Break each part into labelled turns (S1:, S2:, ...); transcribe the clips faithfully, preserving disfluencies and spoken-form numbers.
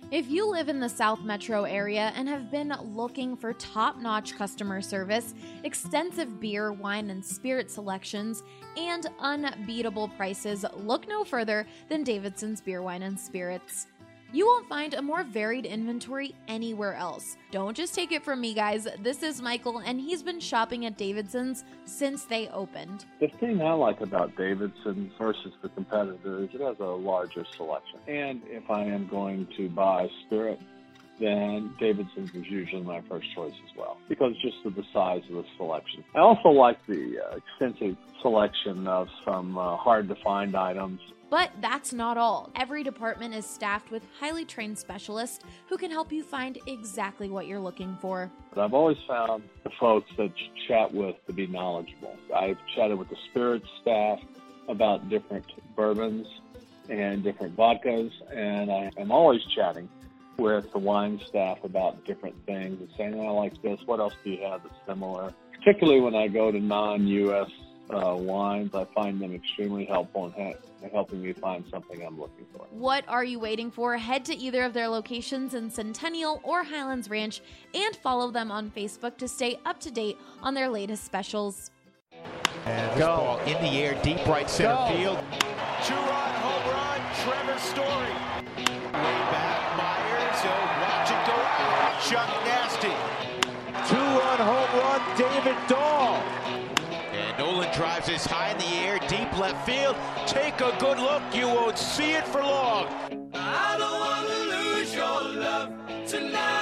S1: If you live in the South Metro area and have been looking for top-notch customer service, extensive beer, wine, and spirit selections, and unbeatable prices, look no further than Davidson's Beer, Wine, and Spirits. You won't find a more varied inventory anywhere else. Don't just take it from me, guys. This is Michael, and he's been shopping at Davidson's since they opened.
S2: The thing I like about Davidson's versus the competitor is it has a larger selection. And if I am going to buy spirit, then Davidson's is usually my first choice as well, because just of the size of the selection. I also like the uh, extensive selection of some uh, hard-to-find items.
S1: But that's not all. Every department is staffed with highly trained specialists who can help you find exactly what you're looking for.
S2: But I've always found the folks that you chat with to be knowledgeable. I've chatted with the spirits staff about different bourbons and different vodkas, and I am always chatting with the wine staff about different things and saying, oh, I like this, what else do you have that's similar? Particularly when I go to non-U S uh, wines, I find them extremely helpful in ha- helping me find something I'm looking for.
S1: What are you waiting for? Head to either of their locations in Centennial or Highlands Ranch and follow them on Facebook to stay up to date on their latest specials.
S3: And this ball in the air, deep right center
S4: Go.
S3: field.
S4: Two-run home run, Trevor Story. Way back, Myers, he'll watch it go out. Chuck Nasty.
S5: Two-run home run, David Dahl.
S3: And Nolan drives this high in the air, deep left field. Take a good look, you won't see it for long.
S4: I don't want to lose your love tonight.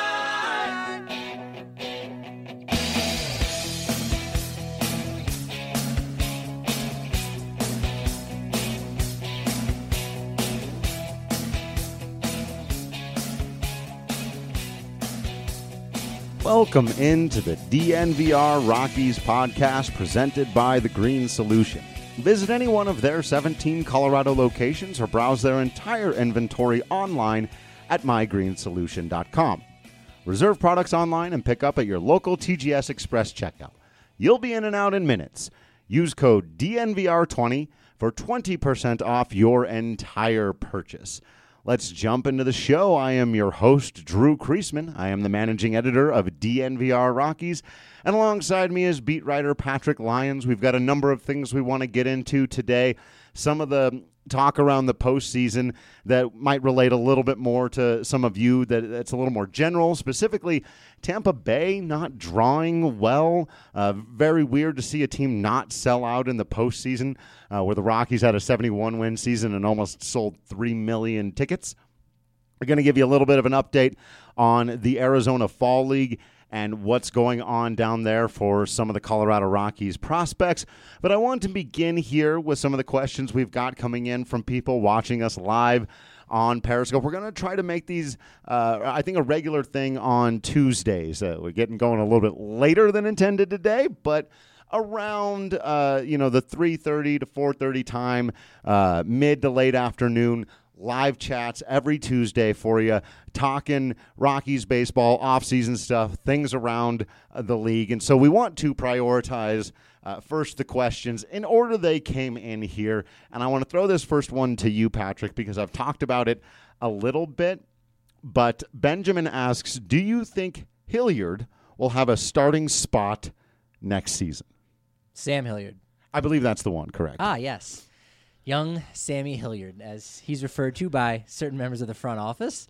S6: Welcome into the D N V R Rockies podcast presented by The Green Solution. Visit any one of their seventeen Colorado locations or browse their entire inventory online at my green solution dot com. Reserve products online and pick up at your local T G S Express checkout. You'll be in and out in minutes. Use code D N V R twenty for twenty percent off your entire purchase. Let's jump into the show. I am your host, Drew Kreisman. I am the managing editor of D N V R Rockies. And alongside me is beat writer Patrick Lyons. We've got a number of things we want to get into today. Some of the talk around the postseason that might relate a little bit more to some of you, that that's a little more general. Specifically, Tampa Bay not drawing well. Uh, very weird to see a team not sell out in the postseason, uh, where the Rockies had a seventy-one win season and almost sold three million tickets. We're going to give you a little bit of an update on the Arizona Fall League and what's going on down there for some of the Colorado Rockies prospects. But I want to begin here with some of the questions we've got coming in from people watching us live on Periscope. We're going to try to make these, uh, I think, a regular thing on Tuesdays. Uh, we're getting going a little bit later than intended today, but around, uh, you know, the three thirty to four thirty time, uh, mid to late afternoon, live chats every Tuesday for you, talking Rockies baseball, off-season stuff, things around uh, the league. And so we want to prioritize uh, first the questions in order they came in here. And I want to throw this first one to you, Patrick, because I've talked about it a little bit. But Benjamin asks, do you think Hilliard will have a starting spot next season?
S7: Sam Hilliard.
S6: I believe that's the one, correct?
S7: Ah, yes. Young Sammy Hilliard, as he's referred to by certain members of the front office.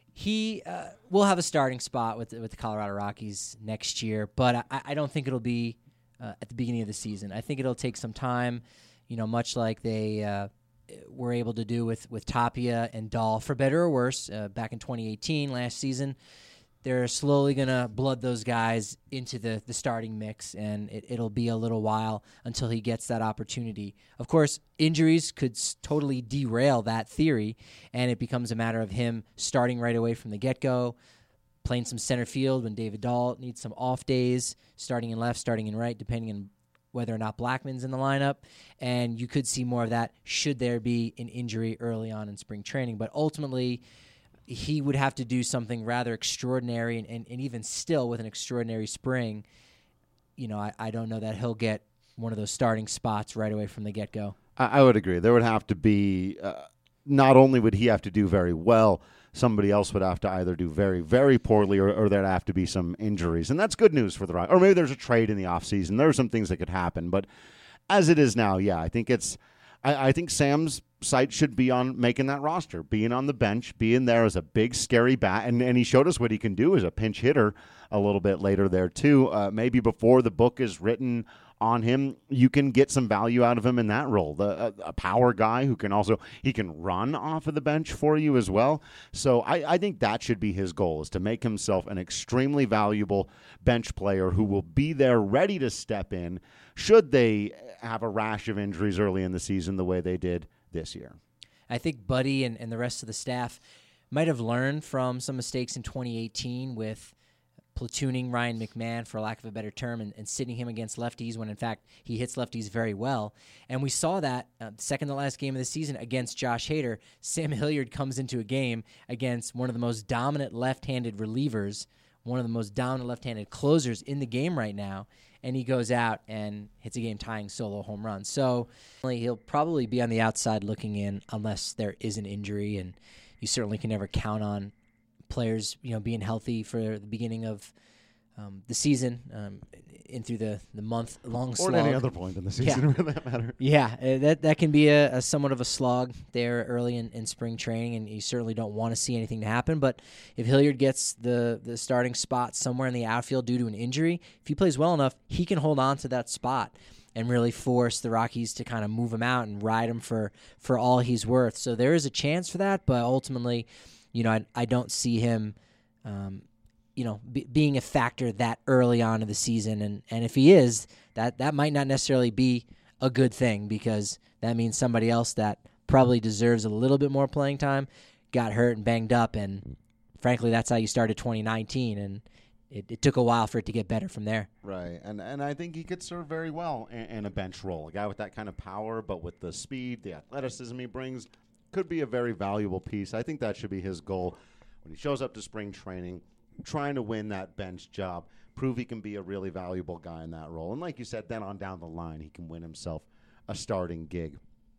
S7: He uh, will have a starting spot with the, with the Colorado Rockies next year, but I, I don't think it'll be uh, at the beginning of the season. I think it'll take some time, you know, much like they uh, were able to do with, with Tapia and Dahl, for better or worse, uh, back in twenty eighteen, last season. They're slowly going to blood those guys into the, the starting mix, and it, it'll be a little while until he gets that opportunity. Of course, injuries could s- totally derail that theory, and it becomes a matter of him starting right away from the get-go, playing some center field when David Dahl needs some off days, starting in left, starting in right, depending on whether or not Blackman's in the lineup. And you could see more of that should there be an injury early on in spring training. But ultimately, he would have to do something rather extraordinary, and, and, and even still with an extraordinary spring, you know, I, I don't know that he'll get one of those starting spots right away from the get-go.
S6: I, I would agree. There would have to be, uh, not only would he have to do very well, somebody else would have to either do very, very poorly or, or there'd have to be some injuries. And that's good news for the Rockies. Or maybe there's a trade in the offseason. There are some things that could happen. But as it is now, yeah, I think it's I, I think Sam's sight should be on making that roster, being on the bench, being there as a big, scary bat. And, and he showed us what he can do as a pinch hitter a little bit later there, too. Uh, maybe before the book is written on him, you can get some value out of him in that role. The a, a power guy who can also he can run off of the bench for you as well. So I, I think that should be his goal, is to make himself an extremely valuable bench player who will be there ready to step in should they have a rash of injuries early in the season the way they did this year.
S7: I think Buddy and, and the rest of the staff might have learned from some mistakes in twenty eighteen with platooning Ryan McMahon, for lack of a better term, and, and sitting him against lefties when, in fact, he hits lefties very well. And we saw that uh, second to last game of the season against Josh Hader. Sam Hilliard comes into a game against one of the most dominant left-handed relievers, one of the most dominant left-handed closers in the game right now, and he goes out and hits a game-tying solo home run. So he'll probably be on the outside looking in unless there is an injury, and you certainly can never count on players, you know, being healthy for the beginning of um, the season, um, in through the, the month-long slog.
S6: Or at any other point in the season,
S7: yeah.
S6: for that matter.
S7: Yeah, uh, that that can be a, a somewhat of a slog there early in, in spring training, and you certainly don't want to see anything to happen. But if Hilliard gets the, the starting spot somewhere in the outfield due to an injury, if he plays well enough, he can hold on to that spot and really force the Rockies to kind of move him out and ride him for, for all he's worth. So there is a chance for that, but ultimately, you know, I, I don't see him, um, you know, b- being a factor that early on in the season. And, and if he is, that, that might not necessarily be a good thing, because that means somebody else that probably deserves a little bit more playing time got hurt and banged up. And frankly, that's how you started twenty nineteen. And it, it took a while for it to get better from there.
S6: Right. And and I think he could serve very well in, in a bench role. A guy with that kind of power, but with the speed, the athleticism he brings, could be a very valuable piece. I think that should be his goal when he shows up to spring training, trying to win that bench job, prove he can be a really valuable guy in that role. And like you said, then on down the line, he can win himself a starting gig.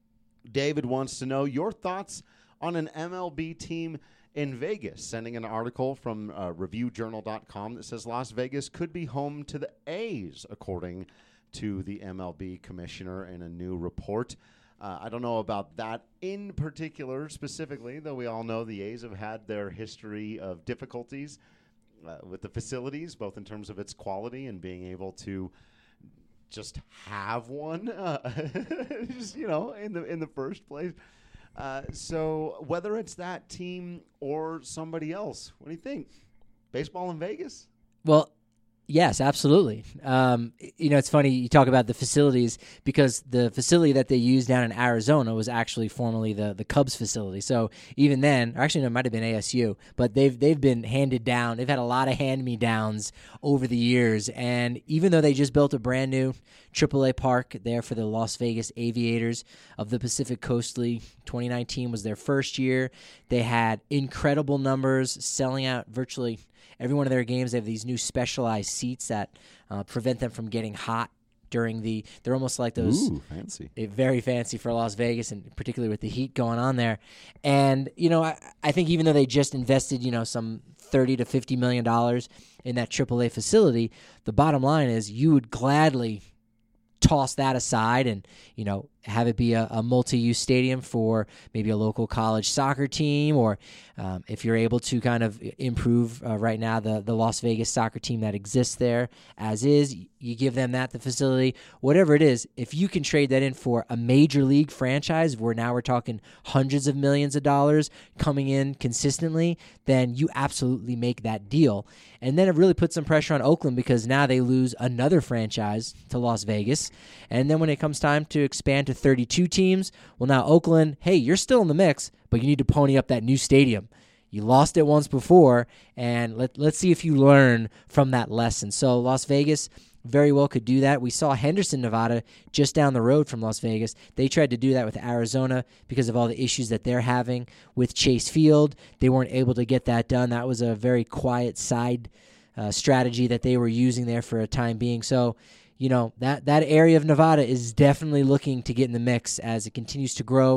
S6: David wants to know your thoughts on an M L B team in Vegas, sending an article from uh, review journal dot com that says Las Vegas could be home to the A's, according to the M L B commissioner in a new report. Uh, I don't know about that in particular specifically, though we all know the A's have had their history of difficulties uh, with the facilities, both in terms of its quality and being able to just have one, uh, just, you know, in the in the first place. Uh, so whether it's that team or somebody else, what do you think? Baseball in Vegas?
S7: Well, yes, absolutely. Um, you know, it's funny you talk about the facilities, because the facility that they used down in Arizona was actually formerly the, the Cubs facility. So even then, or actually no, it might have been A S U, but they've they've been handed down. They've had a lot of hand-me-downs over the years. And even though they just built a brand new triple A park there for the Las Vegas Aviators of the Pacific Coast League, twenty nineteen was their first year. They had incredible numbers, selling out virtually every one of their games. They have these new specialized seats that uh, prevent them from getting hot during the – they're almost like those –
S6: Ooh, fancy.
S7: Uh, very fancy for Las Vegas, and particularly with the heat going on there. And, you know, I, I think even though they just invested, you know, some thirty to fifty million dollars in that triple A facility, the bottom line is you would gladly toss that aside and, you know, have it be a, a multi-use stadium for maybe a local college soccer team, or um, if you're able to kind of improve uh, right now the, the Las Vegas soccer team that exists there as is, you give them that, the facility, whatever it is. If you can trade that in for a major league franchise where now we're talking hundreds of millions of dollars coming in consistently, then you absolutely make that deal. And then it really puts some pressure on Oakland, because now they lose another franchise to Las Vegas. And then when it comes time to expand to thirty-two teams, well, now Oakland, hey, you're still in the mix, but you need to pony up that new stadium. You lost it once before, and let, let's see if you learn from that lesson. So Las Vegas very well could do that. We saw Henderson, Nevada, just down the road from Las Vegas. They tried to do that with Arizona because of all the issues that they're having with Chase Field. They weren't able to get that done. That was a very quiet side uh, strategy that they were using there for a time being. So, you know, that, that area of Nevada is definitely looking to get in the mix as it continues to grow.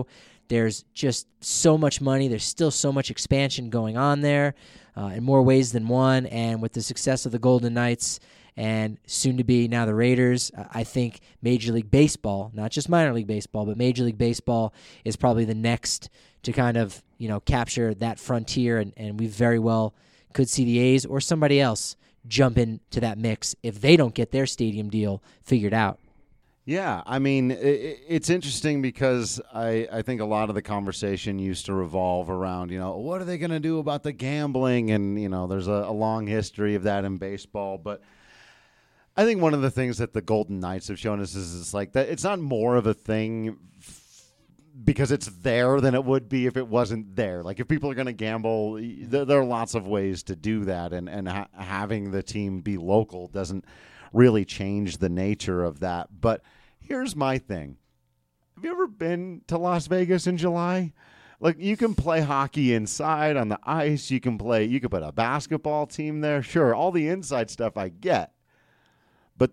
S7: There's just so much money. There's still so much expansion going on there uh, in more ways than one. And with the success of the Golden Knights and soon to be now the Raiders, I think Major League Baseball, not just minor league baseball, but Major League Baseball is probably the next to kind of, you know, capture that frontier. And, and we very well could see the A's or somebody else jump into that mix if they don't get their stadium deal figured out.
S6: Yeah, I mean, it, it's interesting because I, I think a lot of the conversation used to revolve around, you know, what are they going to do about the gambling? And, you know, there's a, a long history of that in baseball. But I think one of the things that the Golden Knights have shown us is it's like that it's not more of a thing f- because it's there than it would be if it wasn't there. Like if people are going to gamble, there, there are lots of ways to do that. And, and ha- having the team be local doesn't really change the nature of that. But here's my thing. Have you ever been to Las Vegas in July? Like, you can play hockey inside on the ice. You can play, you can put a basketball team there. Sure, all the inside stuff I get. But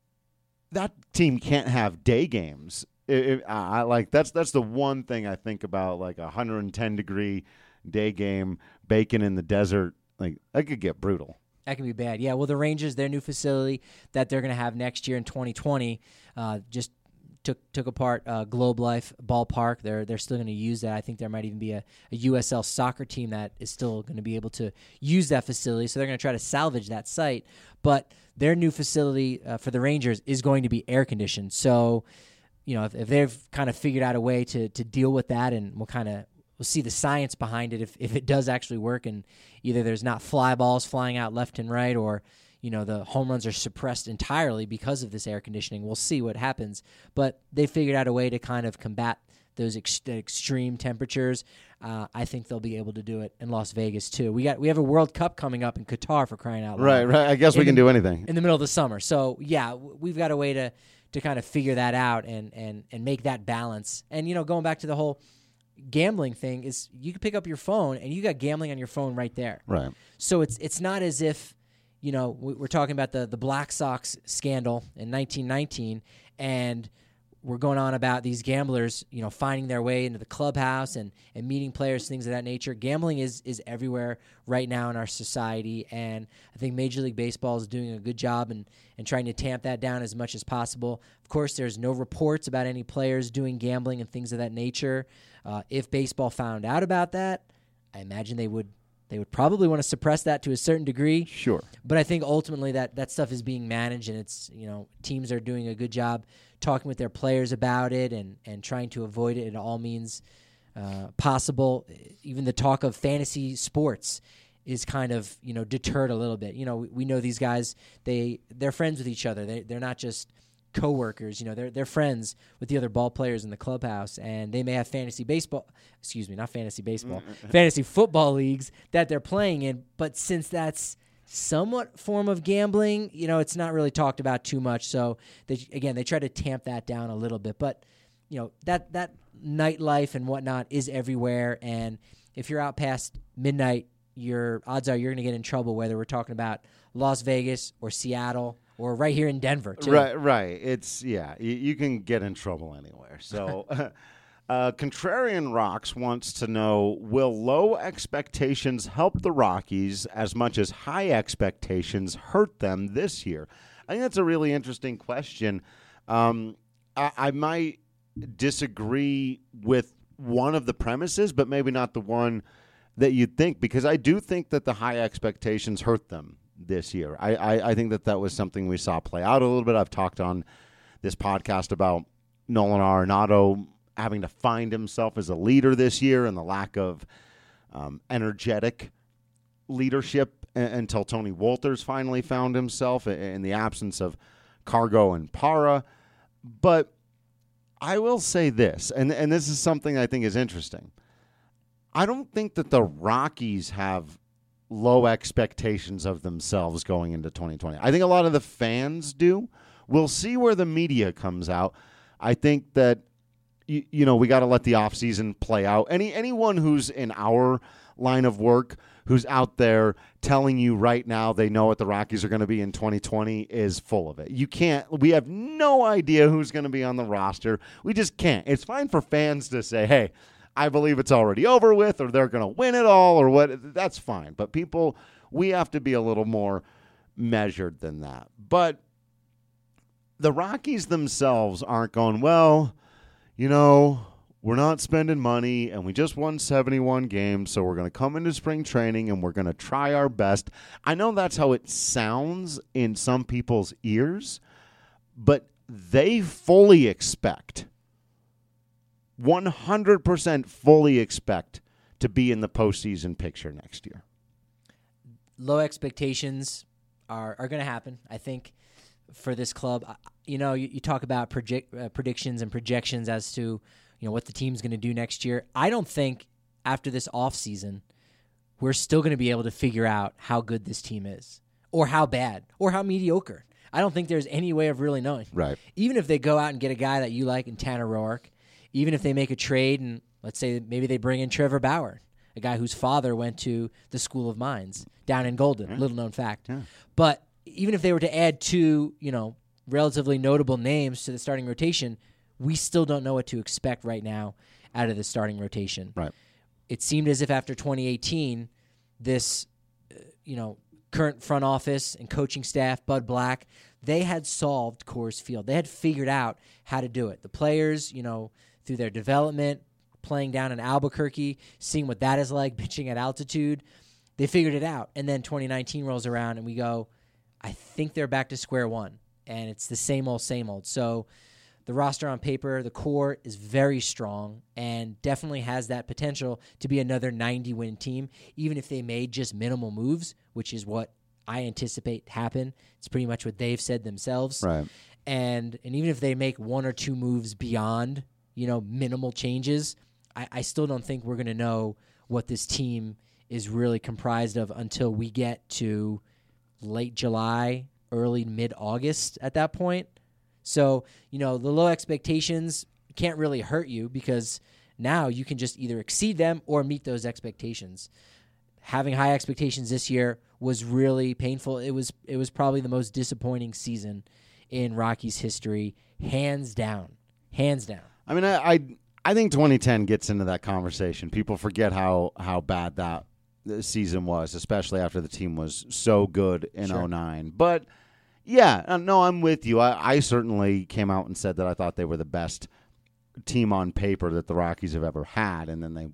S6: that team can't have day games. It, it, I like that's that's the one thing I think about, like a one hundred ten degree day game, bacon in the desert. Like, that could get brutal.
S7: That can be bad. Yeah, well, the Rangers, their new facility that they're going to have next year in twenty twenty, uh, just took took apart uh, Globe Life Ballpark. They're they're still going to use that. I think there might even be a, a U S L soccer team that is still going to be able to use that facility. So they're going to try to salvage that site. But their new facility uh, for the Rangers is going to be air conditioned. So, you know, if, if they've kind of figured out a way to to deal with that, and we'll kind of we'll see the science behind it if if it does actually work, and either there's not fly balls flying out left and right, or, you know, the home runs are suppressed entirely because of this air conditioning. We'll see what happens. But they figured out a way to kind of combat those ex- extreme temperatures. Uh, I think they'll be able to do it in Las Vegas too. We got we have a World Cup coming up in Qatar, for crying out loud.
S6: Right, right. I guess we can
S7: the,
S6: do anything
S7: in the middle of the summer. So yeah, we've got a way to to kind of figure that out and and and make that balance. And, you know, going back to the whole gambling thing, is you can pick up your phone and you got gambling on your phone right there.
S6: Right.
S7: So it's it's not as if, you know, we're talking about the the Black Sox scandal in nineteen nineteen, and we're going on about these gamblers, you know, finding their way into the clubhouse and, and meeting players, things of that nature. Gambling is is everywhere right now in our society, and I think Major League Baseball is doing a good job and and trying to tamp that down as much as possible. Of course, there's no reports about any players doing gambling and things of that nature. Uh, if baseball found out about that, I imagine they would they would probably want to suppress that to a certain degree.
S6: Sure.
S7: But I think ultimately that, that stuff is being managed, and it's, you know, teams are doing a good job talking with their players about it and, and trying to avoid it in all means uh, possible. Even the talk of fantasy sports is kind of, you know, deterred a little bit. You know, we, we know these guys, they, they're friends with each other. They, they're not just co-workers, you know, they're they're friends with the other ball players in the clubhouse, and they may have fantasy baseball, excuse me, not fantasy baseball, fantasy football leagues that they're playing in, but since that's somewhat form of gambling, you know, it's not really talked about too much. So they, again, they try to tamp that down a little bit, but, you know, that that nightlife and whatnot is everywhere, and if you're out past midnight, your odds are you're going to get in trouble, whether we're talking about Las Vegas or Seattle or right here in Denver, too.
S6: Right, right. It's, yeah, you, you can get in trouble anywhere. So, uh, Contrarian Rocks wants to know, will low expectations help the Rockies as much as high expectations hurt them this year? I think that's a really interesting question. Um, I, I might disagree with one of the premises, but maybe not the one that you'd think, because I do think that the high expectations hurt them this year. I, I, I think that that was something we saw play out a little bit. I've talked on this podcast about Nolan Arenado having to find himself as a leader this year and the lack of um, energetic leadership a- until Tony Wolters finally found himself in the absence of Cargo and Para. But I will say this, and, and this is something I think is interesting. I don't think that the Rockies have low expectations of themselves going into twenty twenty. I think a lot of the fans do. We'll see where the media comes out. I think that, you, you know, we got to let the offseason play out. Any anyone who's in our line of work, who's out there telling you right now they know what the Rockies are going to be in twenty twenty is full of it. You can't, we have no idea who's going to be on the roster. We just can't. It's fine for fans to say, hey, I believe it's already over with, or they're going to win it all, or what. That's fine. But people, we have to be a little more measured than that. But the Rockies themselves aren't going, well, you know, we're not spending money, and we just won seventy-one games, so we're going to come into spring training, and we're going to try our best. I know that's how it sounds in some people's ears, but they fully expect, one hundred percent fully expect to be in the postseason picture next year.
S7: Low expectations are, are going to happen, I think, for this club. You know, you, you talk about project, uh, predictions and projections as to, you know, what the team's going to do next year. I don't think after this offseason we're still going to be able to figure out how good this team is, or how bad, or how mediocre. I don't think there's any way of really knowing.
S6: Right.
S7: Even if they go out and get a guy that you like in Tanner Roark, even if they make a trade and let's say maybe they bring in Trevor Bauer, a guy whose father went to the School of Mines down in Golden, yeah. little known fact.
S6: Yeah.
S7: But even if they were to add two, you know, relatively notable names to the starting rotation, we still don't know what to expect right now out of the starting rotation.
S6: Right.
S7: It seemed as if after twenty eighteen, this, uh, you know, current front office and coaching staff, Bud Black, they had solved Coors Field. They had figured out how to do it. The players, you know, through their development, playing down in Albuquerque, seeing what that is like, pitching at altitude, they figured it out. And then twenty nineteen rolls around and we go, I think they're back to square one. And it's the same old, same old. So the roster on paper, the core is very strong and definitely has that potential to be another ninety-win team, even if they made just minimal moves, which is what I anticipate happen. It's pretty much what they've said themselves.
S6: Right.
S7: And and even if they make one or two moves beyond, you know, minimal changes, I, I still don't think we're going to know what this team is really comprised of until we get to late July, early mid-August at that point. So, you know, the low expectations can't really hurt you because now you can just either exceed them or meet those expectations. Having high expectations this year was really painful. It was it was probably the most disappointing season in Rockies history, hands down. Hands down.
S6: I mean, I I, I think twenty ten gets into that conversation. People forget how, how bad that season was, especially after the team was so good in
S7: Sure.
S6: oh nine. But yeah, no, I'm with you. I, I certainly came out and said that I thought they were the best team on paper that the Rockies have ever had, and then they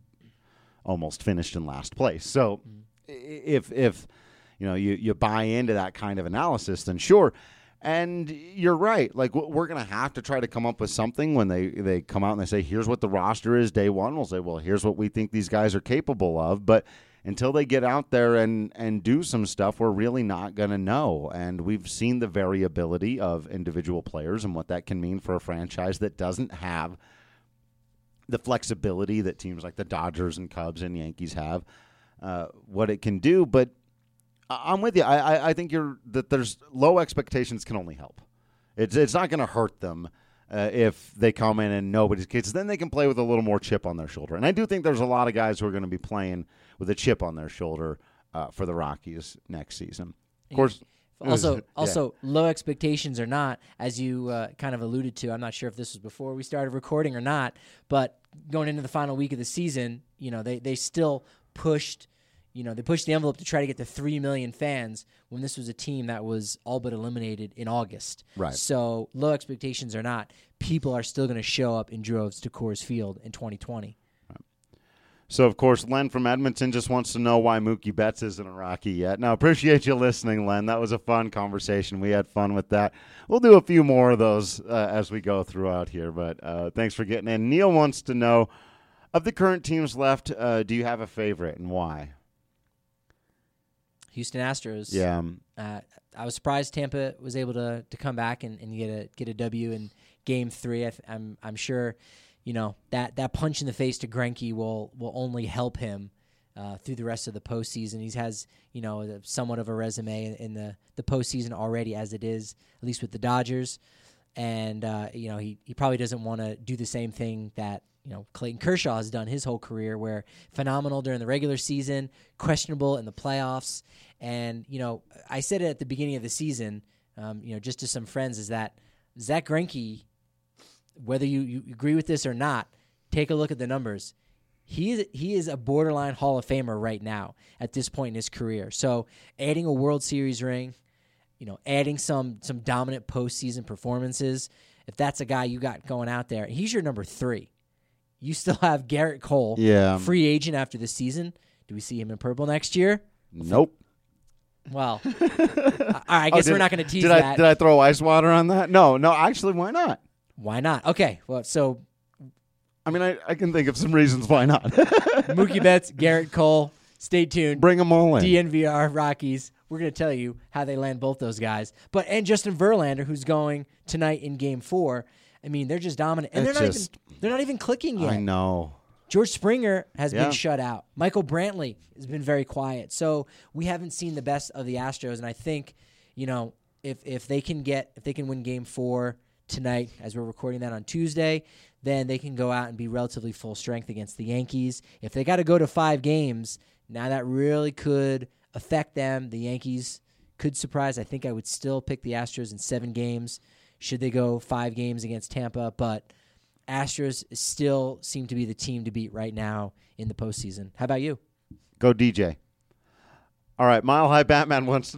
S6: almost finished in last place. So mm-hmm. if if you know you, you buy into that kind of analysis, then sure. And you're right. Like we're going to have to try to come up with something when they, they come out and they say, here's what the roster is day one. We'll say, well, here's what we think these guys are capable of. But until they get out there and, and do some stuff, we're really not going to know. And we've seen the variability of individual players and what that can mean for a franchise that doesn't have the flexibility that teams like the Dodgers and Cubs and Yankees have, uh, what it can do. But I'm with you. I, I, I think you're that there's low expectations can only help. It's it's not going to hurt them uh, if they come in and nobody's kids. Then they can play with a little more chip on their shoulder. And I do think there's a lot of guys who are going to be playing with a chip on their shoulder uh, for the Rockies next season. Of course,
S7: also
S6: yeah.
S7: also low expectations or not, as you uh, kind of alluded to. I'm not sure if this was before we started recording or not, but going into the final week of the season, you know, they they still pushed. You know, they pushed the envelope to try to get to three million fans when this was a team that was all but eliminated in August.
S6: Right.
S7: So low expectations or not, people are still going to show up in droves to Coors Field in twenty twenty.
S6: Right. So, of course, Len from Edmonton just wants to know why Mookie Betts isn't a Rocky yet. Now, appreciate you listening, Len. That was a fun conversation. We had fun with that. We'll do a few more of those uh, as we go throughout here, but uh, thanks for getting in. Neil wants to know, of the current teams left, uh, do you have a favorite and why?
S7: Houston Astros.
S6: Yeah.
S7: Uh, I was surprised Tampa was able to to come back and, and get a get a W in Game Three. I th- I'm I'm sure, you know, that, that punch in the face to Greinke will will only help him uh, through the rest of the postseason. He has, you know, somewhat of a resume in, in the the postseason already as it is, at least with the Dodgers, and uh, you know he he probably doesn't want to do the same thing that. You know, Clayton Kershaw has done his whole career where phenomenal during the regular season, questionable in the playoffs. And, you know, I said it at the beginning of the season, um, you know, just to some friends, is that Zach Greinke, whether you, you agree with this or not, take a look at the numbers. he is he is a borderline Hall of Famer right now at this point in his career. So adding a World Series ring, you know, adding some some dominant postseason performances, if that's a guy you got going out there, he's your number three. You still have Garrett Cole,
S6: yeah.
S7: free agent after the season. Do we see him in purple next year?
S6: Nope.
S7: Well, I, I guess
S6: oh, did,
S7: we're not going to tease
S6: did
S7: that.
S6: I, did I throw ice water on that? No, no, actually, why not?
S7: Why not? Okay, well, so...
S6: I mean, I, I can think of some reasons why not.
S7: Mookie Betts, Garrett Cole, stay tuned.
S6: Bring them all in.
S7: D N V R, Rockies. We're going to tell you how they land both those guys. But And Justin Verlander, who's going tonight in Game four. I mean, they're just dominant. And they're not,
S6: just,
S7: even, they're not even clicking yet.
S6: I know.
S7: George Springer has
S6: yeah.
S7: been shut out. Michael Brantley has been very quiet. So we haven't seen the best of the Astros. And I think, you know, if if they can get if they can win Game Four tonight, as we're recording that on Tuesday, then they can go out and be relatively full strength against the Yankees. If they got to go to five games, now that really could affect them. The Yankees could surprise. I think I would still pick the Astros in seven games. Should they go five games against Tampa, but Astros still seem to be the team to beat right now in the postseason. How about you?
S6: Go D J. All right, Mile High Batman wants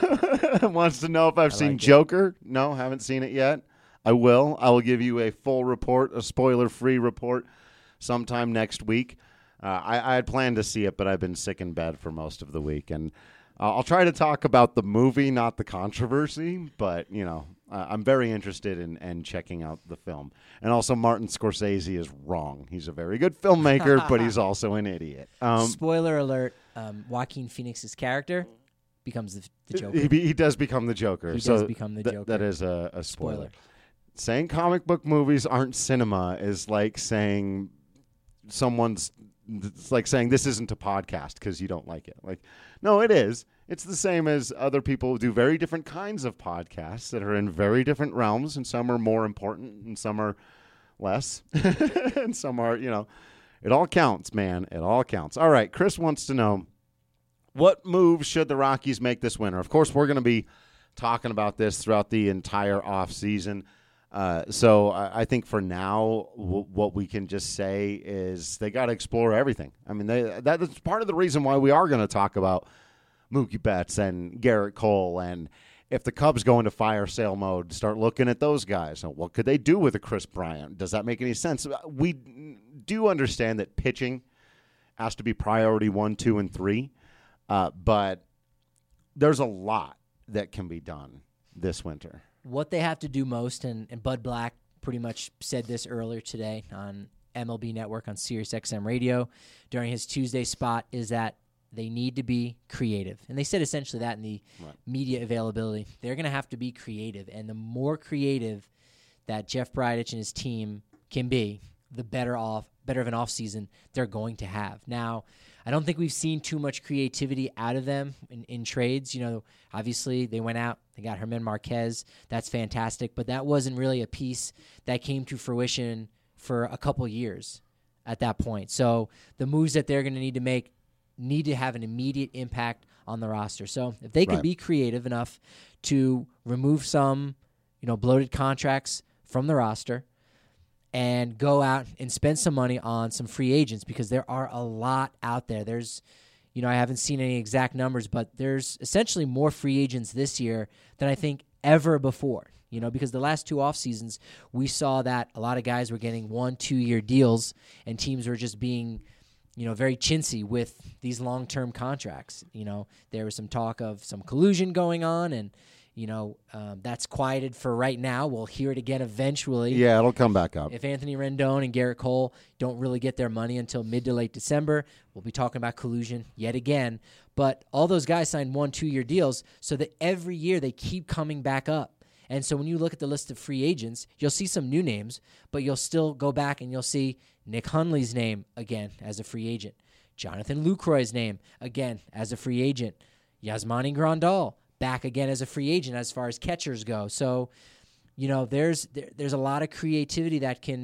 S6: to wants to know if I've
S7: I
S6: seen
S7: like
S6: Joker. No, haven't seen it yet. I will. I will give you a full report, a spoiler-free report, sometime next week. Uh, I, I had planned to see it, but I've been sick in bed for most of the week, and uh, I'll try to talk about the movie, not the controversy. But you know, uh, I'm very interested in, in checking out the film. And also, Martin Scorsese is wrong. He's a very good filmmaker, but he's also an idiot. Um,
S7: Spoiler alert: um, Joaquin Phoenix's character becomes the, the Joker.
S6: He, he does become the Joker.
S7: He
S6: so
S7: does become the
S6: th-
S7: Joker.
S6: That is a, a spoiler.
S7: Spoiler.
S6: Saying comic book movies aren't cinema is like saying someone's. It's like saying this isn't a podcast because you don't like it. Like, no, it is. It's the same as other people who do very different kinds of podcasts that are in very different realms, and some are more important and some are less, and some are, you know, it all counts, man. It all counts. All right, Chris wants to know, what moves should the Rockies make this winter? Of course, we're going to be talking about this throughout the entire offseason. Uh, so I, I think for now, w- what we can just say is they got to explore everything. I mean, they, that is part of the reason why we are going to talk about Mookie Betts and Garrett Cole. And if the Cubs go into fire sale mode, start looking at those guys. So what could they do with a Chris Bryant? Does that make any sense? We do understand that pitching has to be priority one, two, and three. Uh, but there's a lot that can be done this winter.
S7: What they have to do most, and, and Bud Black pretty much said this earlier today on M L B Network on Sirius X M Radio during his Tuesday spot, is that they need to be creative. And they said essentially that in the right. media availability. They're going to have to be creative. And the more creative that Jeff Bridich and his team can be, the better off, better of an offseason they're going to have. Now, I don't think we've seen too much creativity out of them in, in trades. You know, obviously they went out, they got Herman Marquez. That's fantastic, but that wasn't really a piece that came to fruition for a couple years at that point. So the moves that they're going to need to make need to have an immediate impact on the roster. So if they can
S6: right.
S7: be creative enough to remove some, you know, bloated contracts from the roster, and go out and spend some money on some free agents, because there are a lot out there. There's, you know, I haven't seen any exact numbers, but there's essentially more free agents this year than I think ever before, you know, because the last two off seasons, we saw that a lot of guys were getting one, two-year deals, and teams were just being, you know, very chintzy with these long-term contracts. You know, there was some talk of some collusion going on, and You know, um, that's quieted for right now. We'll hear it again eventually.
S6: Yeah, it'll come back up.
S7: If Anthony Rendon and Garrett Cole don't really get their money until mid to late December, we'll be talking about collusion yet again. But all those guys signed one, two-year deals so that every year they keep coming back up. And so when you look at the list of free agents, you'll see some new names, but you'll still go back and you'll see Nick Hundley's name again as a free agent. Jonathan Lucroy's name again as a free agent. Yasmani Grandal back again as a free agent as far as catchers go. So, you know, there's there, there's a lot of creativity that can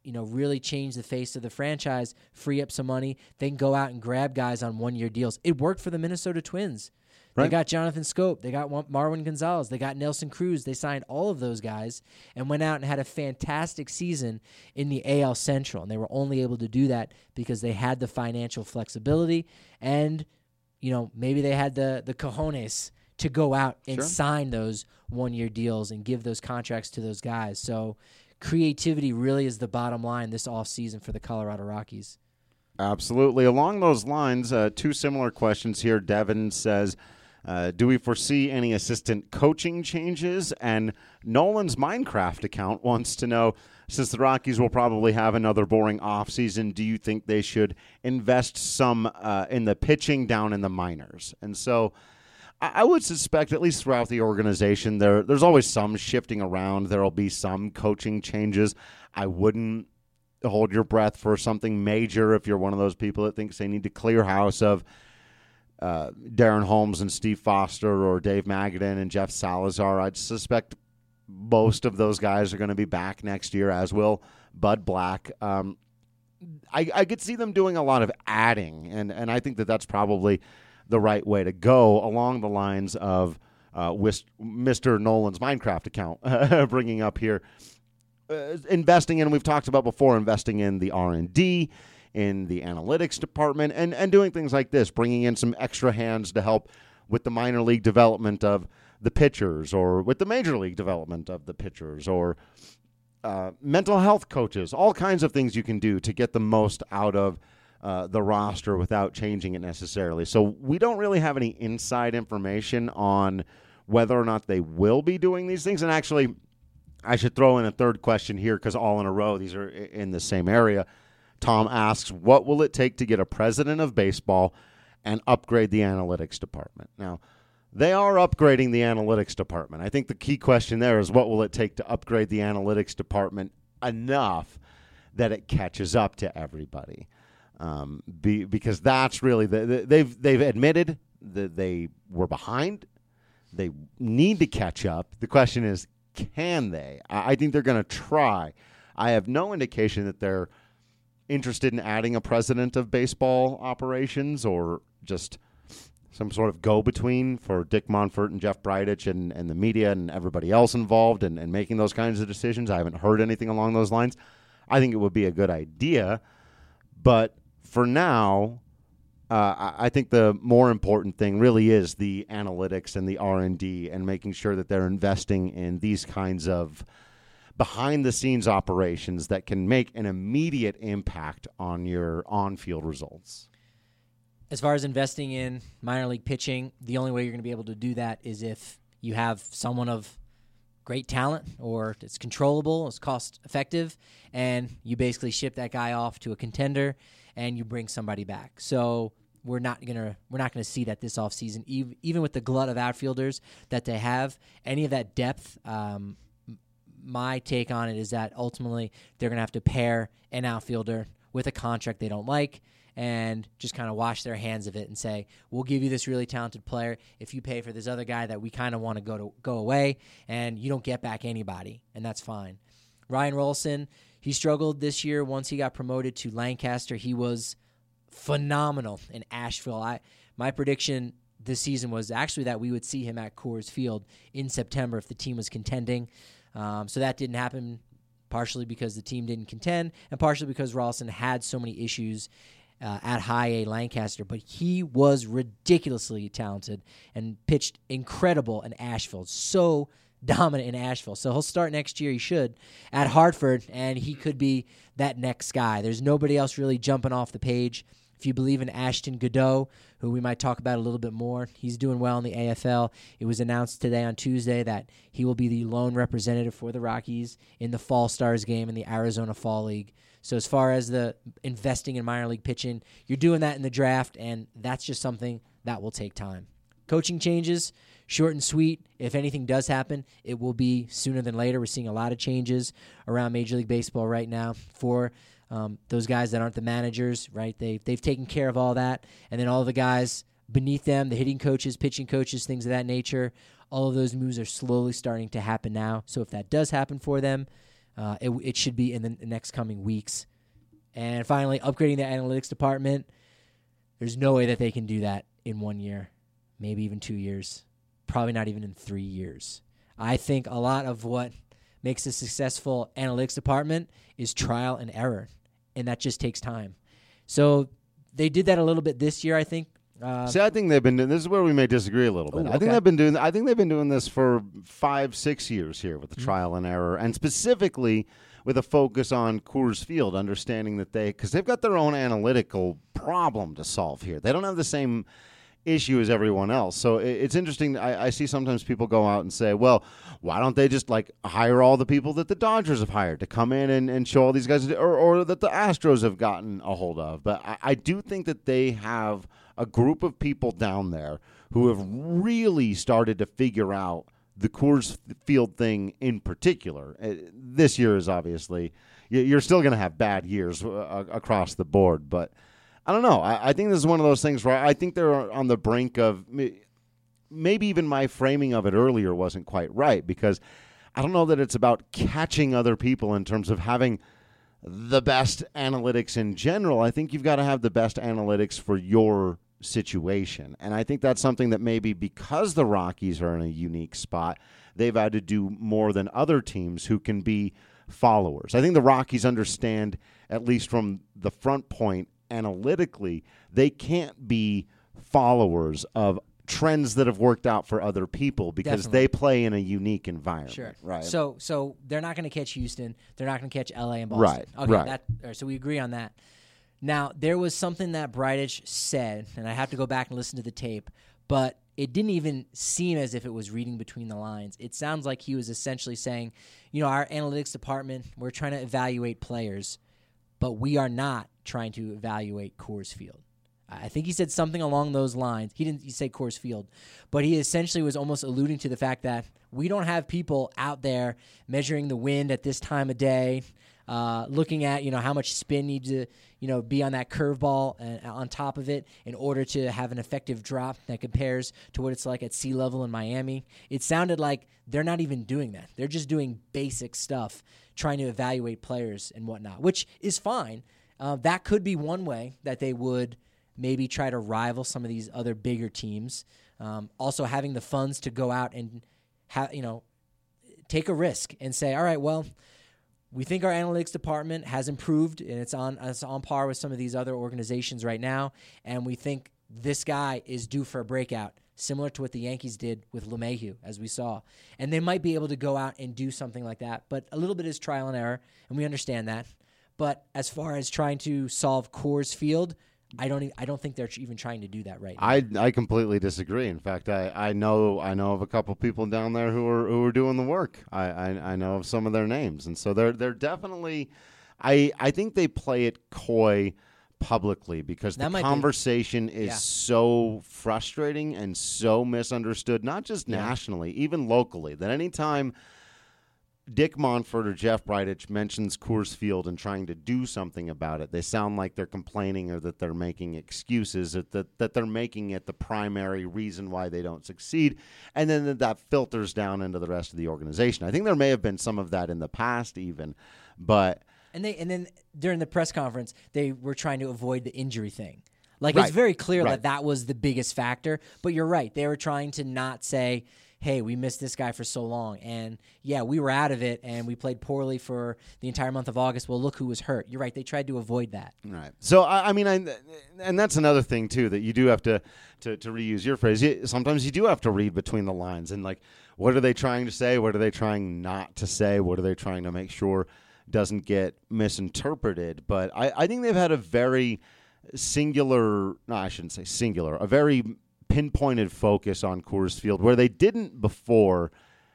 S7: you know, really change the face of the franchise, free up some money, they can go out and grab guys on one-year deals. It worked for the Minnesota Twins. Right. They got Jonathan Scope. They got Marwin Gonzalez. They got Nelson Cruz. They signed all of those guys and went out and had a fantastic season in the A L Central. And they were only able to do that because they had the financial flexibility and, you know, maybe they had the, the cojones to go out and sure. sign those one-year deals and give those contracts to those guys. So creativity really is the bottom line this offseason for the Colorado Rockies.
S6: Absolutely. Along those lines, uh, two similar questions here. Devin says, Uh, do we foresee any assistant coaching changes? And Nolan's Minecraft account wants to know, since the Rockies will probably have another boring offseason, do you think they should invest some uh, in the pitching down in the minors? And so I, I would suspect, at least throughout the organization, there there's always some shifting around. There will be some coaching changes. I wouldn't hold your breath for something major if you're one of those people that thinks they need to clear house of Uh, Darren Holmes and Steve Foster or Dave Magadan and Jeff Salazar. I'd suspect most of those guys are going to be back next year, as will Bud Black. Um, I, I could see them doing a lot of adding, and, and I think that that's probably the right way to go along the lines of uh, Mister Nolan's Minecraft account bringing up here. Uh, investing in, we've talked about before, investing in the R and D, in the analytics department, and, and doing things like this, bringing in some extra hands to help with the minor league development of the pitchers or with the major league development of the pitchers or uh, mental health coaches, all kinds of things you can do to get the most out of uh, the roster without changing it necessarily. So we don't really have any inside information on whether or not they will be doing these things. And actually, I should throw in a third question here because all in a row, these are in the same area. Tom asks, what will it take to get a president of baseball and upgrade the analytics department? Now, they are upgrading the analytics department. I think the key question there is, what will it take to upgrade the analytics department enough that it catches up to everybody? Um, be, because that's really, the, the, they've, they've admitted that they were behind. They need to catch up. The question is, can they? I, I think they're going to try. I have no indication that they're interested in adding a president of baseball operations or just some sort of go-between for Dick Monfort and Jeff Bridich and, and the media and everybody else involved and, and making those kinds of decisions. I haven't heard anything along those lines. I think it would be a good idea. But for now, uh, I think the more important thing really is the analytics and the R and D and making sure that they're investing in these kinds of behind-the-scenes operations that can make an immediate impact on your on-field results.
S7: As far as investing in minor league pitching, the only way you're going to be able to do that is if you have someone of great talent or it's controllable, it's cost-effective, and you basically ship that guy off to a contender and you bring somebody back. So we're not gonna we're not gonna see that this offseason, even even with the glut of outfielders that they have, any of that depth. Um, My take on it is that ultimately they're going to have to pair an outfielder with a contract they don't like and just kind of wash their hands of it and say, we'll give you this really talented player if you pay for this other guy that we kind of want to go to go away, and you don't get back anybody, and that's fine. Ryan Rolson, he struggled this year once he got promoted to Lancaster. He was phenomenal in Asheville. I my prediction this season was actually that we would see him at Coors Field in September if the team was contending. Um, so that didn't happen, partially because the team didn't contend and partially because Rolson had so many issues uh, at High A Lancaster. But he was ridiculously talented and pitched incredible in Asheville, so dominant in Asheville. So he'll start next year, he should, at Hartford, and he could be that next guy. There's nobody else really jumping off the page. If you believe in Ashton Godot, who we might talk about a little bit more, he's doing well in the A F L. It was announced today on Tuesday that he will be the lone representative for the Rockies in the Fall Stars game in the Arizona Fall League. So as far as the investing in minor league pitching, you're doing that in the draft, and that's just something that will take time. Coaching changes, short and sweet. If anything does happen, it will be sooner than later. We're seeing a lot of changes around Major League Baseball right now for Um, those guys that aren't the managers, right? They, they've taken care of all that. And then all the guys beneath them, the hitting coaches, pitching coaches, things of that nature, all of those moves are slowly starting to happen now. So if that does happen for them, Uh, it, it should be in the next coming weeks. And finally, upgrading the analytics department. There's no way that they can do that in one year, maybe even two years, probably not even in three years. I think a lot of what makes a successful analytics department is trial and error, and that just takes time. So they did that a little bit this year, I think. Uh,
S6: See, I think they've been doing this is where we may disagree a little bit.
S7: Ooh,
S6: I think
S7: okay.
S6: they've been doing I think they've been doing this for five, six years here with the
S7: Mm-hmm.
S6: trial and error, and specifically with a focus on Coors Field, understanding that they because they've got their own analytical problem to solve here. They don't have the same issue as everyone else. So it, it's interesting. I, I see sometimes people go out and say, well, why don't they just like hire all the people that the Dodgers have hired to come in and, and show all these guys, or, or that the Astros have gotten a hold of? But I, I do think that they have a group of people down there who have really started to figure out the Coors Field thing in particular. Uh, this year is obviously, you're still going to have bad years uh, across the board, but I don't know. I, I think this is one of those things where I think they're on the brink of maybe even my framing of it earlier wasn't quite right, because I don't know that it's about catching other people in terms of having the best analytics in general. I think you've got to have the best analytics for your situation. And I think that's something that maybe because the Rockies are in a unique spot, they've had to do more than other teams who can be followers. I think the Rockies understand, at least from the front point, analytically, they can't be followers of trends that have worked out for other people because
S7: Definitely.
S6: they play in a unique environment.
S7: Sure.
S6: Right.
S7: So so they're not going to catch Houston. They're not going to catch L A and Boston.
S6: Right,
S7: Okay.
S6: right.
S7: That, all right, so we agree on that. Now, there was something that Bridich said, and I have to go back and listen to the tape, but it didn't even seem as if it was reading between the lines. It sounds like he was essentially saying, you know, our analytics department, we're trying to evaluate players, but we are not trying to evaluate Coors Field. I think he said something along those lines. He didn't say Coors Field, but he essentially was almost alluding to the fact that we don't have people out there measuring the wind at this time of day, uh, looking at, you know, how much spin needs to, you know, be on that curveball and on top of it in order to have an effective drop that compares to what it's like at sea level in Miami. It sounded like they're not even doing that. They're just doing basic stuff, trying to evaluate players and whatnot, which is fine. Uh, that could be one way that they would maybe try to rival some of these other bigger teams. Um, also having the funds to go out and ha- you know, take a risk and say, all right, well, we think our analytics department has improved and it's on it's on par with some of these other organizations right now, and we think this guy is due for a breakout, similar to what the Yankees did with LeMahieu, as we saw. And they might be able to go out and do something like that, but a little bit is trial and error, and we understand that. But as far as trying to solve Coors Field, I don't. I don't think they're even trying to do that right now.
S6: I, I completely disagree. In fact, I, I know I know of a couple people down there who are who are doing the work. I, I, I know of some of their names, and so they're they're definitely. I I think they play it coy publicly because
S7: That
S6: the
S7: might be-
S6: conversation is
S7: Yeah.
S6: so frustrating and so misunderstood, not just
S7: Yeah.
S6: nationally, even locally. That anytime Dick Monfort or Jeff Bridich mentions Coors Field and trying to do something about it, they sound like they're complaining or that they're making excuses, or that, that they're making it the primary reason why they don't succeed, and then that, that filters down into the rest of the organization. I think there may have been some of that in the past even, but
S7: And they and then during the press conference, they were trying to avoid the injury thing. Like
S6: Right.
S7: it's very clear
S6: Right.
S7: that that was the biggest factor. But you're right; they were trying to not say, "Hey, we missed this guy for so long," and yeah, we were out of it, and we played poorly for the entire month of August. Well, look who was hurt. You're right; they tried to avoid that.
S6: Right. So I, I mean, I, and that's another thing too that you do have to, to to reuse your phrase. You, sometimes you do have to read between the lines and like, what are they trying to say? What are they trying not to say? What are they trying to make sure doesn't get misinterpreted? But I, I think they've had a very singular. No, I shouldn't say singular. A very pinpointed focus on Coors Field where they didn't before.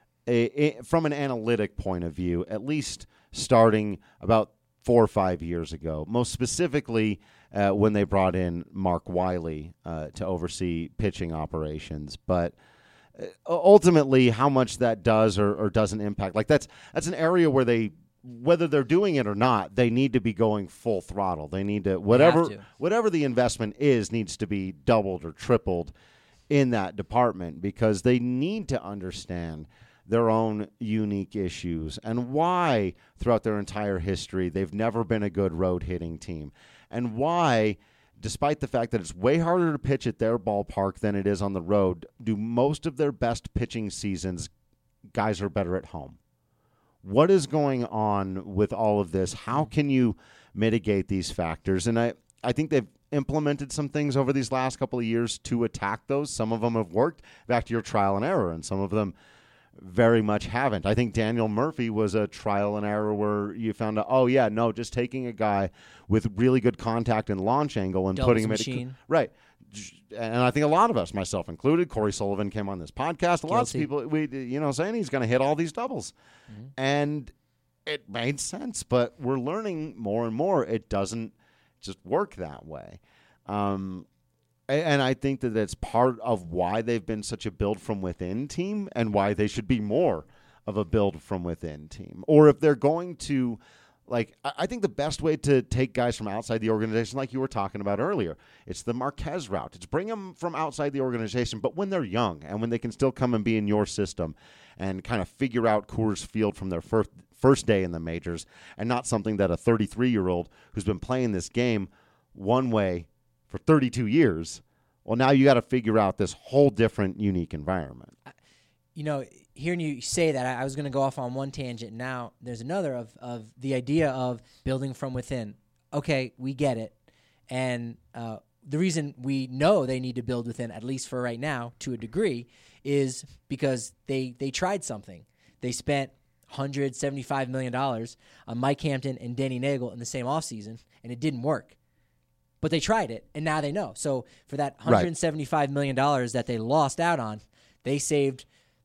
S6: A, a, from an analytic point of view, at least starting about four or five years ago, most specifically uh, when they brought in Mark Wiley uh, to oversee pitching operations. But uh, ultimately, how much that does or, or doesn't impact, like that's that's an area where they, whether they're doing it or not, they need to be going full throttle. They need to whatever
S7: to.
S6: whatever the investment is needs to be doubled or tripled in that department because they need to understand their own unique issues and why throughout their entire history they've never been a good road hitting team, and why, despite the fact that it's way harder to pitch at their ballpark than it is on the road, do most of their best pitching seasons guys are better at home. What is going on with all of this? How can you mitigate these factors? And I, I think they've implemented some things over these last couple of years to attack those. Some of them have worked, back to your trial and error, and some of them very much haven't. I think Daniel Murphy was a trial and error where you found out, oh, yeah, no, just taking a guy with really good contact and launch angle and
S7: Doubles
S6: putting him
S7: machine.
S6: at a, right. And I think a lot of us, myself included, Corey Sullivan came on this podcast. Lots of people, we, you know, saying he's going to hit all these doubles. Mm-hmm. And it made sense, but we're learning more and more it doesn't just work that way. Um, and I think that that's part of why they've been such a build from within team and why they should be more of a build from within team. Or if they're going to, like, I think the best way to take guys from outside the organization, like you were talking about earlier, it's the Marquez route. It's bring them from outside the organization, but when they're young and when they can still come and be in your system and kind of figure out Coors Field from their first first day in the majors, and not something that a thirty-three-year-old who's been playing this game one way for thirty-two years, well, now you got to figure out this whole different, unique environment.
S7: You know, hearing you say that, I was going to go off on one tangent. Now there's another of, of the idea of building from within. Okay, we get it. And uh, the reason we know they need to build within, at least for right now, to a degree, is because they, they tried something. They spent one hundred seventy-five million dollars on Mike Hampton and Danny Nagel in the same offseason, and it didn't work. But they tried it, and now they know. So for that one hundred seventy-five million dollars that they lost out on, they saved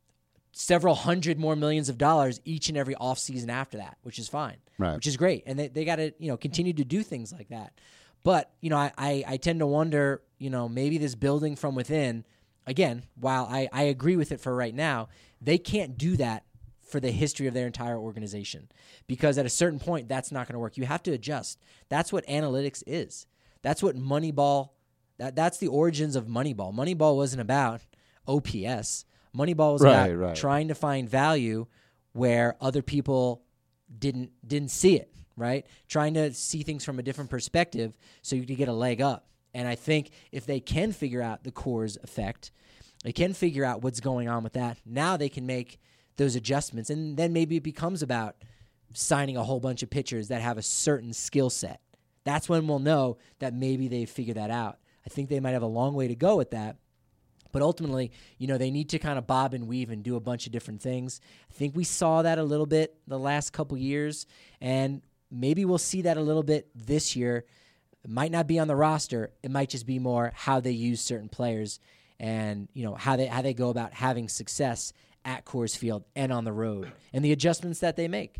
S7: several hundred more millions of dollars each and every offseason after that, which is fine,
S6: right.
S7: which is great. And they, they got to, you know, continue to do things like that. But, you know, I, I, I tend to wonder, you know, maybe this building from within, again, while I, I agree with it for right now, they can't do that for the history of their entire organization, because at a certain point, that's not going to work. You have to adjust. That's what analytics is. That's what Moneyball, that, that's the origins of Moneyball. Moneyball wasn't about O P S. Moneyball was
S6: right,
S7: about
S6: right.
S7: trying to find value where other people didn't didn't see it, right? Trying to see things from a different perspective so you could get a leg up. And I think if they can figure out the Coors effect, they can figure out what's going on with that, now they can make those adjustments. And then maybe it becomes about signing a whole bunch of pitchers that have a certain skill set. That's when we'll know that maybe they've figured that out. I think they might have a long way to go with that. But ultimately, you know, they need to kind of bob and weave and do a bunch of different things. I think we saw that a little bit the last couple years, and maybe we'll see that a little bit this year. It might not be on the roster. It might just be more how they use certain players and, you know, how they how they go about having success at Coors Field and on the road, and the adjustments that they make.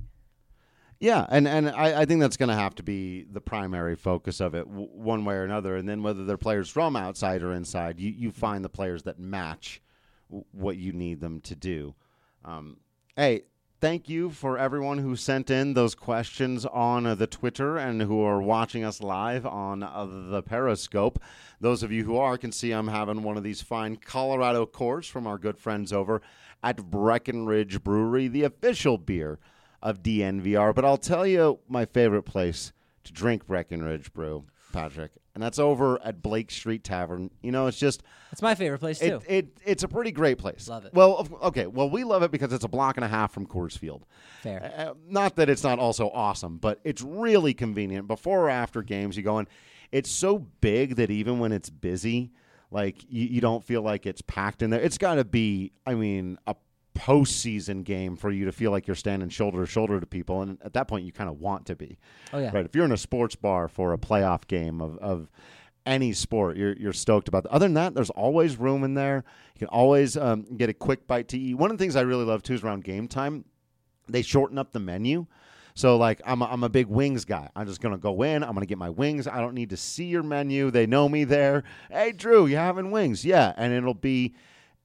S6: Yeah, and, and I, I think that's going to have to be the primary focus of it w- one way or another. And then whether they're players from outside or inside, you, you find the players that match w- what you need them to do. Um, hey, thank you for everyone who sent in those questions on uh, the Twitter and who are watching us live on uh, the Periscope. Those of you who are can see I'm having one of these fine Colorado Coors from our good friends over at Breckenridge Brewery, the official beer of D N V R. But I'll tell you my favorite place to drink Breckenridge Brew, Patrick, and that's over at Blake Street Tavern. You know, it's just...
S7: It's my favorite place, too.
S6: It, it It's a pretty great place.
S7: Love it.
S6: Well, okay, well, we love it because it's a block and a half from Coors Field.
S7: Fair.
S6: Uh, not that it's not also awesome, but it's really convenient. Before or after games, you go in. It's so big that even when it's busy, like, you, you don't feel like it's packed in there. It's got to be, I mean, a postseason game for you to feel like you're standing shoulder to shoulder to people, and at that point you kind of want to be.
S7: Oh yeah,
S6: right. If you're in a sports bar for a playoff game of, of any sport, you're you're stoked about that. Other than that, there's always room in there. You can always um, get a quick bite to eat. One of the things I really love too is around game time, they shorten up the menu. So, like, I'm a, I'm a big wings guy. I'm just going to go in. I'm going to get my wings. I don't need to see your menu. They know me there. Hey, Drew, you having wings? Yeah, and it'll be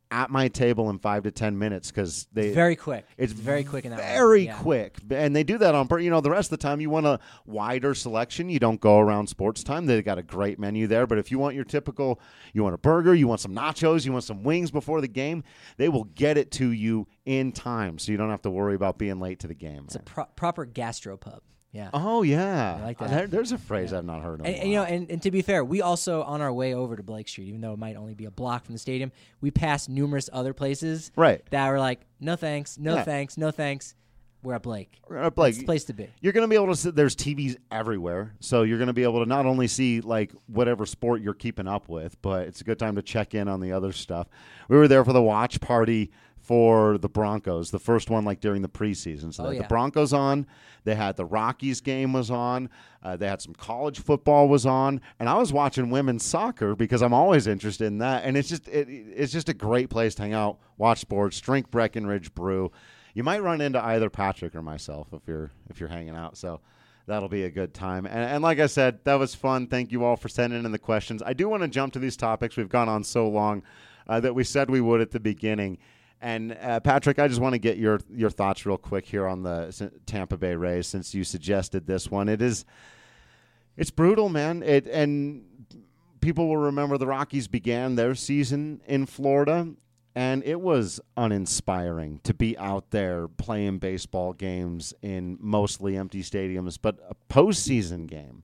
S6: at my table in five to ten minutes because they
S7: It's very quick.
S6: It's
S7: very quick in that
S6: very
S7: way. Yeah.
S6: quick, and they do that on purpose. You know, the rest of the time you want a wider selection. You don't go around sports time. They got a great menu there, but if you want your typical, you want a burger, you want some nachos, you want some wings before the game, they will get it to you in time, so you don't have to worry about being late to the game.
S7: It's a pro- proper gastropub. Yeah.
S6: Oh yeah,
S7: I like that.
S6: There, there's a phrase
S7: Yeah.
S6: I've not heard of.
S7: And, and, you know, and, and to be fair, we also on our way over to Blake Street, even though it might only be a block from the stadium, we passed numerous other places
S6: Right.
S7: that were like, no thanks, no
S6: Yeah.
S7: thanks, no thanks. We're at Blake.
S6: We're at Blake.
S7: It's the place to be.
S6: You're going to be able to see, there's T Vs everywhere, so you're going to be able to not only see like whatever sport you're keeping up with, but it's a good time to check in on the other stuff. We were there for the watch party for the Broncos, the first one like during the preseason. So
S7: Oh,
S6: they had
S7: yeah.
S6: the Broncos on, they had the Rockies game was on, uh, they had some college football was on, and I was watching women's soccer because I'm always interested in that. And it's just it, it's just a great place to hang out, watch sports, drink Breckenridge brew. You might run into either Patrick or myself if you're if you're hanging out. So that'll be a good time. And, and like I said, that was fun. Thank you all for sending in the questions. I do want to jump to these topics. We've gone on so long uh, that we said we would at the beginning. And uh, Patrick, I just want to get your your thoughts real quick here on the Tampa Bay Rays since you suggested this one. It is it's brutal, man. It and people will remember the Rockies began their season in Florida. And it was uninspiring to be out there playing baseball games in mostly empty stadiums, but a postseason game.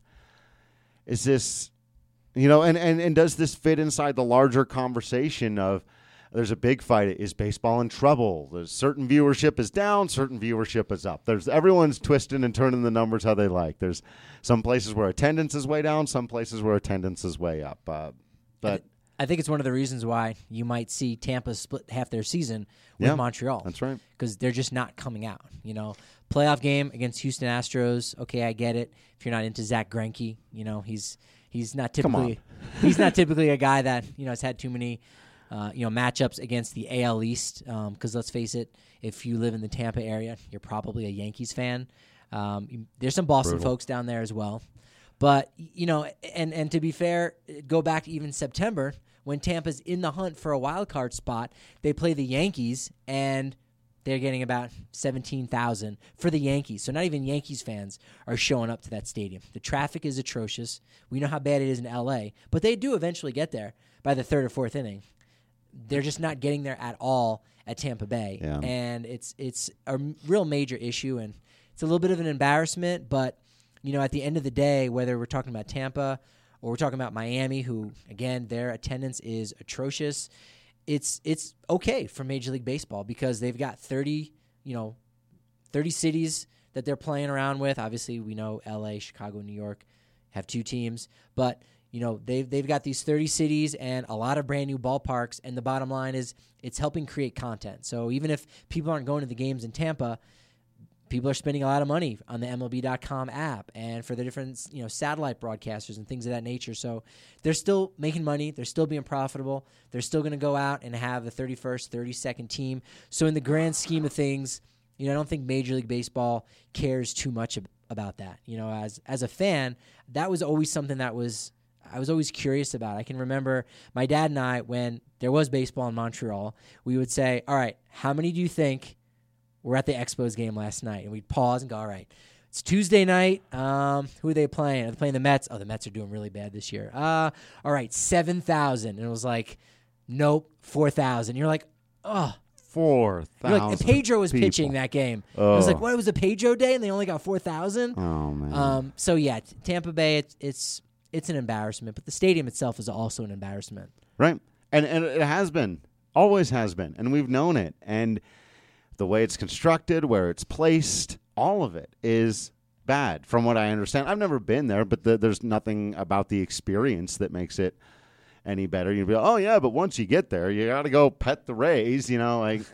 S6: Is this, you know, and, and, and does this fit inside the larger conversation of there's a big fight? Is baseball in trouble? There's certain viewership is down, certain viewership is up. There's everyone's twisting and turning the numbers how they like. There's some places where attendance is way down, some places where attendance is way up. Uh, but
S7: I think it's one of the reasons why you might see Tampa split half their season with
S6: Yeah,
S7: Montreal.
S6: that's right.
S7: Because they're just not coming out. You know, playoff game against Houston Astros. Okay, I get it. If you're not into Zach Greinke, you know he's he's not typically he's not typically a guy that you know has had too many uh, you know matchups against the A L East. Because let's face it, if you live in the Tampa area, you're probably a Yankees fan. Um, there's some Boston
S6: Brutal.
S7: folks down there as well. But, you know, and, and to be fair, go back to even September when Tampa's in the hunt for a wild card spot. They play the Yankees, and they're getting about seventeen thousand for the Yankees. So not even Yankees fans are showing up to that stadium. The traffic is atrocious. We know how bad it is in L A, but they do eventually get there by the third or fourth inning. They're just not getting there at all at Tampa Bay.
S6: Yeah.
S7: And it's it's a real major issue, and it's a little bit of an embarrassment, but you know, at the end of the day, whether we're talking about Tampa or we're talking about Miami, who, again, their attendance is atrocious, it's it's okay for Major League Baseball because they've got thirty, you know, thirty cities that they're playing around with. Obviously, we know L A, Chicago, New York have two teams, but you know, they've they've got these thirty cities and a lot of brand new ballparks, and the bottom line is it's helping create content. So even if people aren't going to the games in Tampa, people are spending a lot of money on the M L B dot com app and for the different, you know, satellite broadcasters and things of that nature. So they're still making money. They're still being profitable. They're still going to go out and have the thirty-first, thirty-second team. So in the grand scheme of things, you know, I don't think Major League Baseball cares too much ab- about that. You know, as as a fan, that was always something that was I was always curious about. I can remember my dad and I, when there was baseball in Montreal, we would say, all right, how many do you think we're at the Expos game last night? And we'd pause and go, all right, it's Tuesday night. Um, who are they playing? Are they playing the Mets? Oh, the Mets are doing really bad this year. Uh, all right, seven thousand. And it was like, nope, four thousand. You're like, oh.
S6: Four
S7: You're
S6: thousand.
S7: like, and Pedro was
S6: people.
S7: pitching that game.
S6: Oh.
S7: I was like, what, it was a Pedro day and they only got four thousand?
S6: Oh, man.
S7: Um, so, yeah, t- Tampa Bay, it's, it's it's an embarrassment. But the stadium itself is also an embarrassment.
S6: Right. And and it has been. Always has been. And we've known it. And the way it's constructed, where it's placed, all of it is bad from what I understand. I've never been there, but the, there's nothing about the experience that makes it any better. You'd be like, oh, yeah, but once you get there, you got to go pet the Rays, you know, like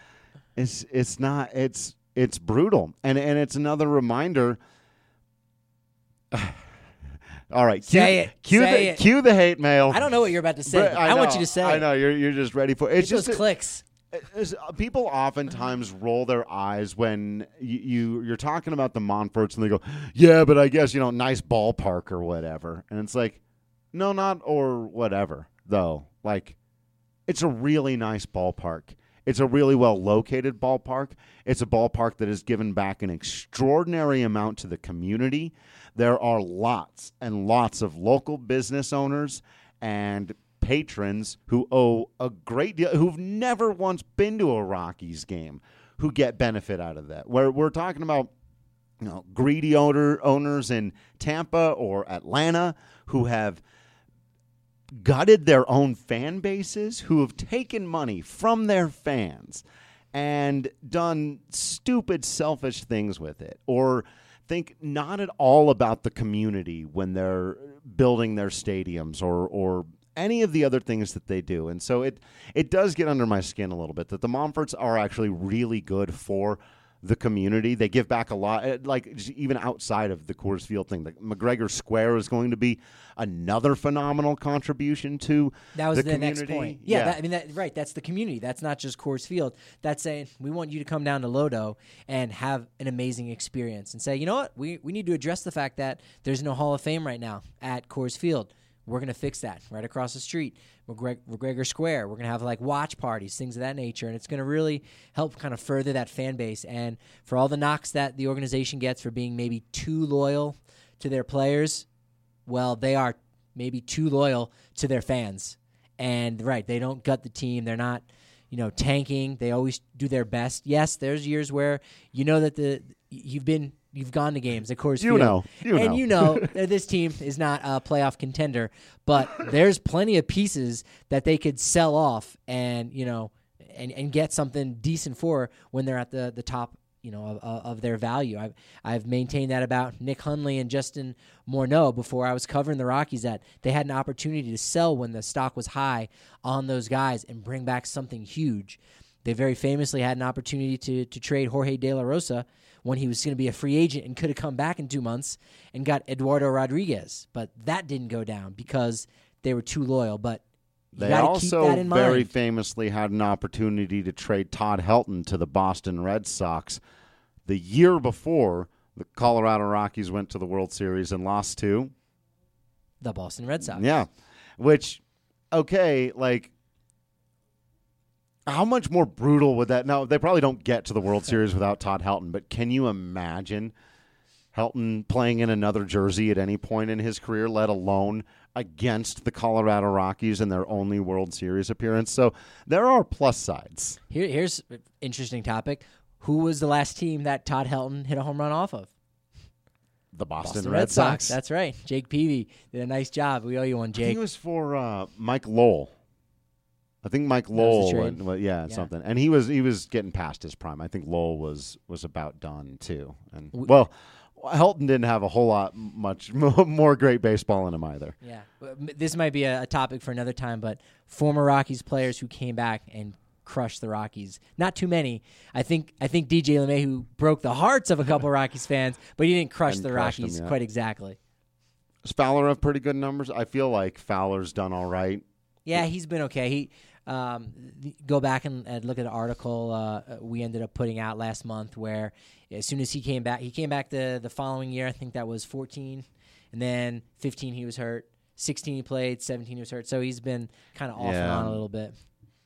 S6: it's it's not it's it's brutal. And and it's another reminder. All right, cue,
S7: Say it.
S6: Cue,
S7: Say
S6: the,
S7: it.
S6: cue the hate mail.
S7: I don't know what you're about to say.
S6: But
S7: I, want
S6: know,
S7: you to say
S6: I
S7: it.
S6: know you're you're just ready for it. It's
S7: Get
S6: just
S7: those
S6: a-
S7: clicks.
S6: It's- people oftentimes roll their eyes when you, you you're talking about the Montforts and they go, yeah, but I guess you know, nice ballpark or whatever, and it's like, no, not or whatever though. Like, it's a really nice ballpark. It's a really well-located ballpark. It's a ballpark that has given back an extraordinary amount to the community. There are lots and lots of local business owners and patrons who owe a great deal, who've never once been to a Rockies game, who get benefit out of that. Where we're talking about, you know, greedy owner, owners in Tampa or Atlanta who have gutted their own fan bases, who have taken money from their fans and done stupid, selfish things with it, or think not at all about the community when they're building their stadiums or or any of the other things that they do. And so it it does get under my skin a little bit that the Monforts are actually really good for the community. They give back a lot, like even outside of the Coors Field thing. The McGregor Square is going to be another phenomenal contribution to
S7: that was
S6: the,
S7: the
S6: community.
S7: next point. Yeah,
S6: yeah.
S7: That, I mean, that, right. That's the community. That's not just Coors Field. That's saying we want you to come down to Lodo and have an amazing experience and say, you know what, we we need to address the fact that there's no Hall of Fame right now at Coors Field. We're going to fix that right across the street, McGreg- McGregor Square. We're going to have like watch parties, things of that nature, and it's going to really help kind of further that fan base. And for all the knocks that the organization gets for being maybe too loyal to their players, well, they are maybe too loyal to their fans. And right, they don't gut the team. They're not, you know, tanking. They always do their best. Yes, there's years where you know that the you've been You've gone to games at Coors
S6: You
S7: Field.
S6: know. You
S7: and
S6: know.
S7: you know that this team is not a playoff contender, but there's plenty of pieces that they could sell off and, you know, and, and get something decent for when they're at the, the top, you know, of, of their value. I've, I've maintained that about Nick Hundley and Justin Morneau before I was covering the Rockies, that they had an opportunity to sell when the stock was high on those guys and bring back something huge. They very famously had an opportunity to to trade Jorge De La Rosa when he was going to be a free agent and could have come back in two months and got Eduardo Rodriguez. But that didn't go down because they were too loyal. But you
S6: they
S7: gotta keep
S6: also
S7: that in
S6: very
S7: mind.
S6: famously had an opportunity to trade Todd Helton to the Boston Red Sox the year before the Colorado Rockies went to the World Series and lost to
S7: The Boston Red Sox.
S6: Yeah, which, okay, like, how much more brutal would that? Now, they probably don't get to the World Series without Todd Helton, but can you imagine Helton playing in another jersey at any point in his career, let alone against the Colorado Rockies in their only World Series appearance? So there are plus sides.
S7: Here, here's an interesting topic. Who was the last team that Todd Helton hit a home run off of?
S6: The Boston,
S7: Boston
S6: Red,
S7: Red
S6: Sox.
S7: Sox. That's right. Jake Peavy did a nice job. We owe you one,
S6: I think
S7: Jake.
S6: it was for uh, Mike Lowell. I think Mike
S7: was
S6: Lowell,
S7: the trade.
S6: went, well, yeah,
S7: Yeah.
S6: something, and he was he was getting past his prime. I think Lowell was was about done too. And
S7: We-
S6: well, Helton didn't have a whole lot much more great baseball in him either.
S7: Yeah, But m- this might be a, a topic for another time, but former Rockies players who came back and crushed the Rockies. Not too many. I think I think D J LeMahieu broke the hearts of a couple Rockies fans, but he didn't crush
S6: Hadn't
S7: the
S6: crushed
S7: Rockies
S6: them yet.
S7: quite exactly.
S6: Does Fowler have pretty good numbers? I feel like Fowler's done all right.
S7: Yeah, he's been okay. He um, th- go back and, and look at an article uh, we ended up putting out last month where as soon as he came back, he came back the the following year. I think that was fourteen, and then fifteen he was hurt. sixteen he played, seventeen he was hurt. So he's been kind of off and
S6: Yeah.
S7: on a little bit.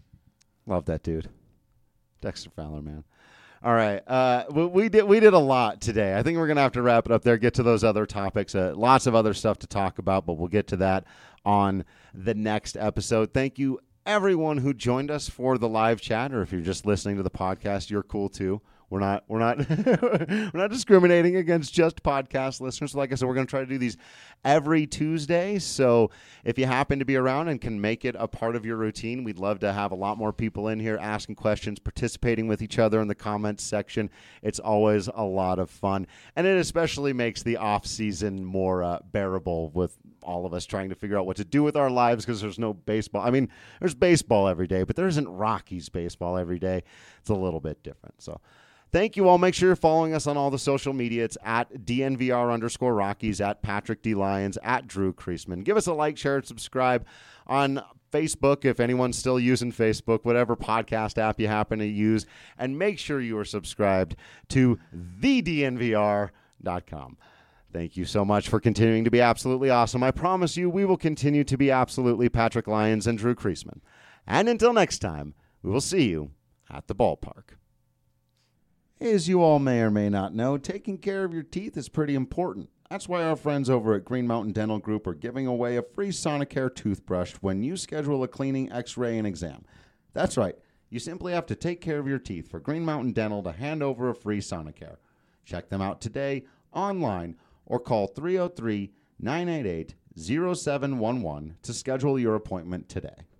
S6: Love that dude, Dexter Fowler, man. All right, uh, we, we did we did a lot today. I think we're gonna have to wrap it up there. Get to those other topics. Uh, lots of other stuff to talk about, but we'll get to that on the next episode. Thank you, everyone who joined us for the live chat, or if you're just listening to the podcast, you're cool too. We're not we're not we're not discriminating against just podcast listeners. Like I said, we're going to try to do these every Tuesday. So if you happen to be around and can make it a part of your routine, we'd love to have a lot more people in here asking questions, participating with each other in the comments section. It's always a lot of fun, and it especially makes the off season more uh, bearable with all of us trying to figure out what to do with our lives because there's no baseball. I mean, there's baseball every day, but there isn't Rockies baseball every day. It's a little bit different. So thank you all. Make sure you're following us on all the social media. It's at D N V R underscore Rockies, at Patrick D. Lyons, at Drew Kreisman. Give us a like, share, and subscribe on Facebook if anyone's still using Facebook, whatever podcast app you happen to use. And make sure you are subscribed to the D N V R dot com. Thank you so much for continuing to be absolutely awesome. I promise you we will continue to be absolutely Patrick Lyons and Drew Kreisman. And until next time, we will see you at the ballpark. As you all may or may not know, taking care of your teeth is pretty important. That's why our friends over at Green Mountain Dental Group are giving away a free Sonicare toothbrush when you schedule a cleaning, x-ray, and exam. That's right. You simply have to take care of your teeth for Green Mountain Dental to hand over a free Sonicare. Check them out today, online, or call three oh three, nine eight eight, oh seven one one to schedule your appointment today.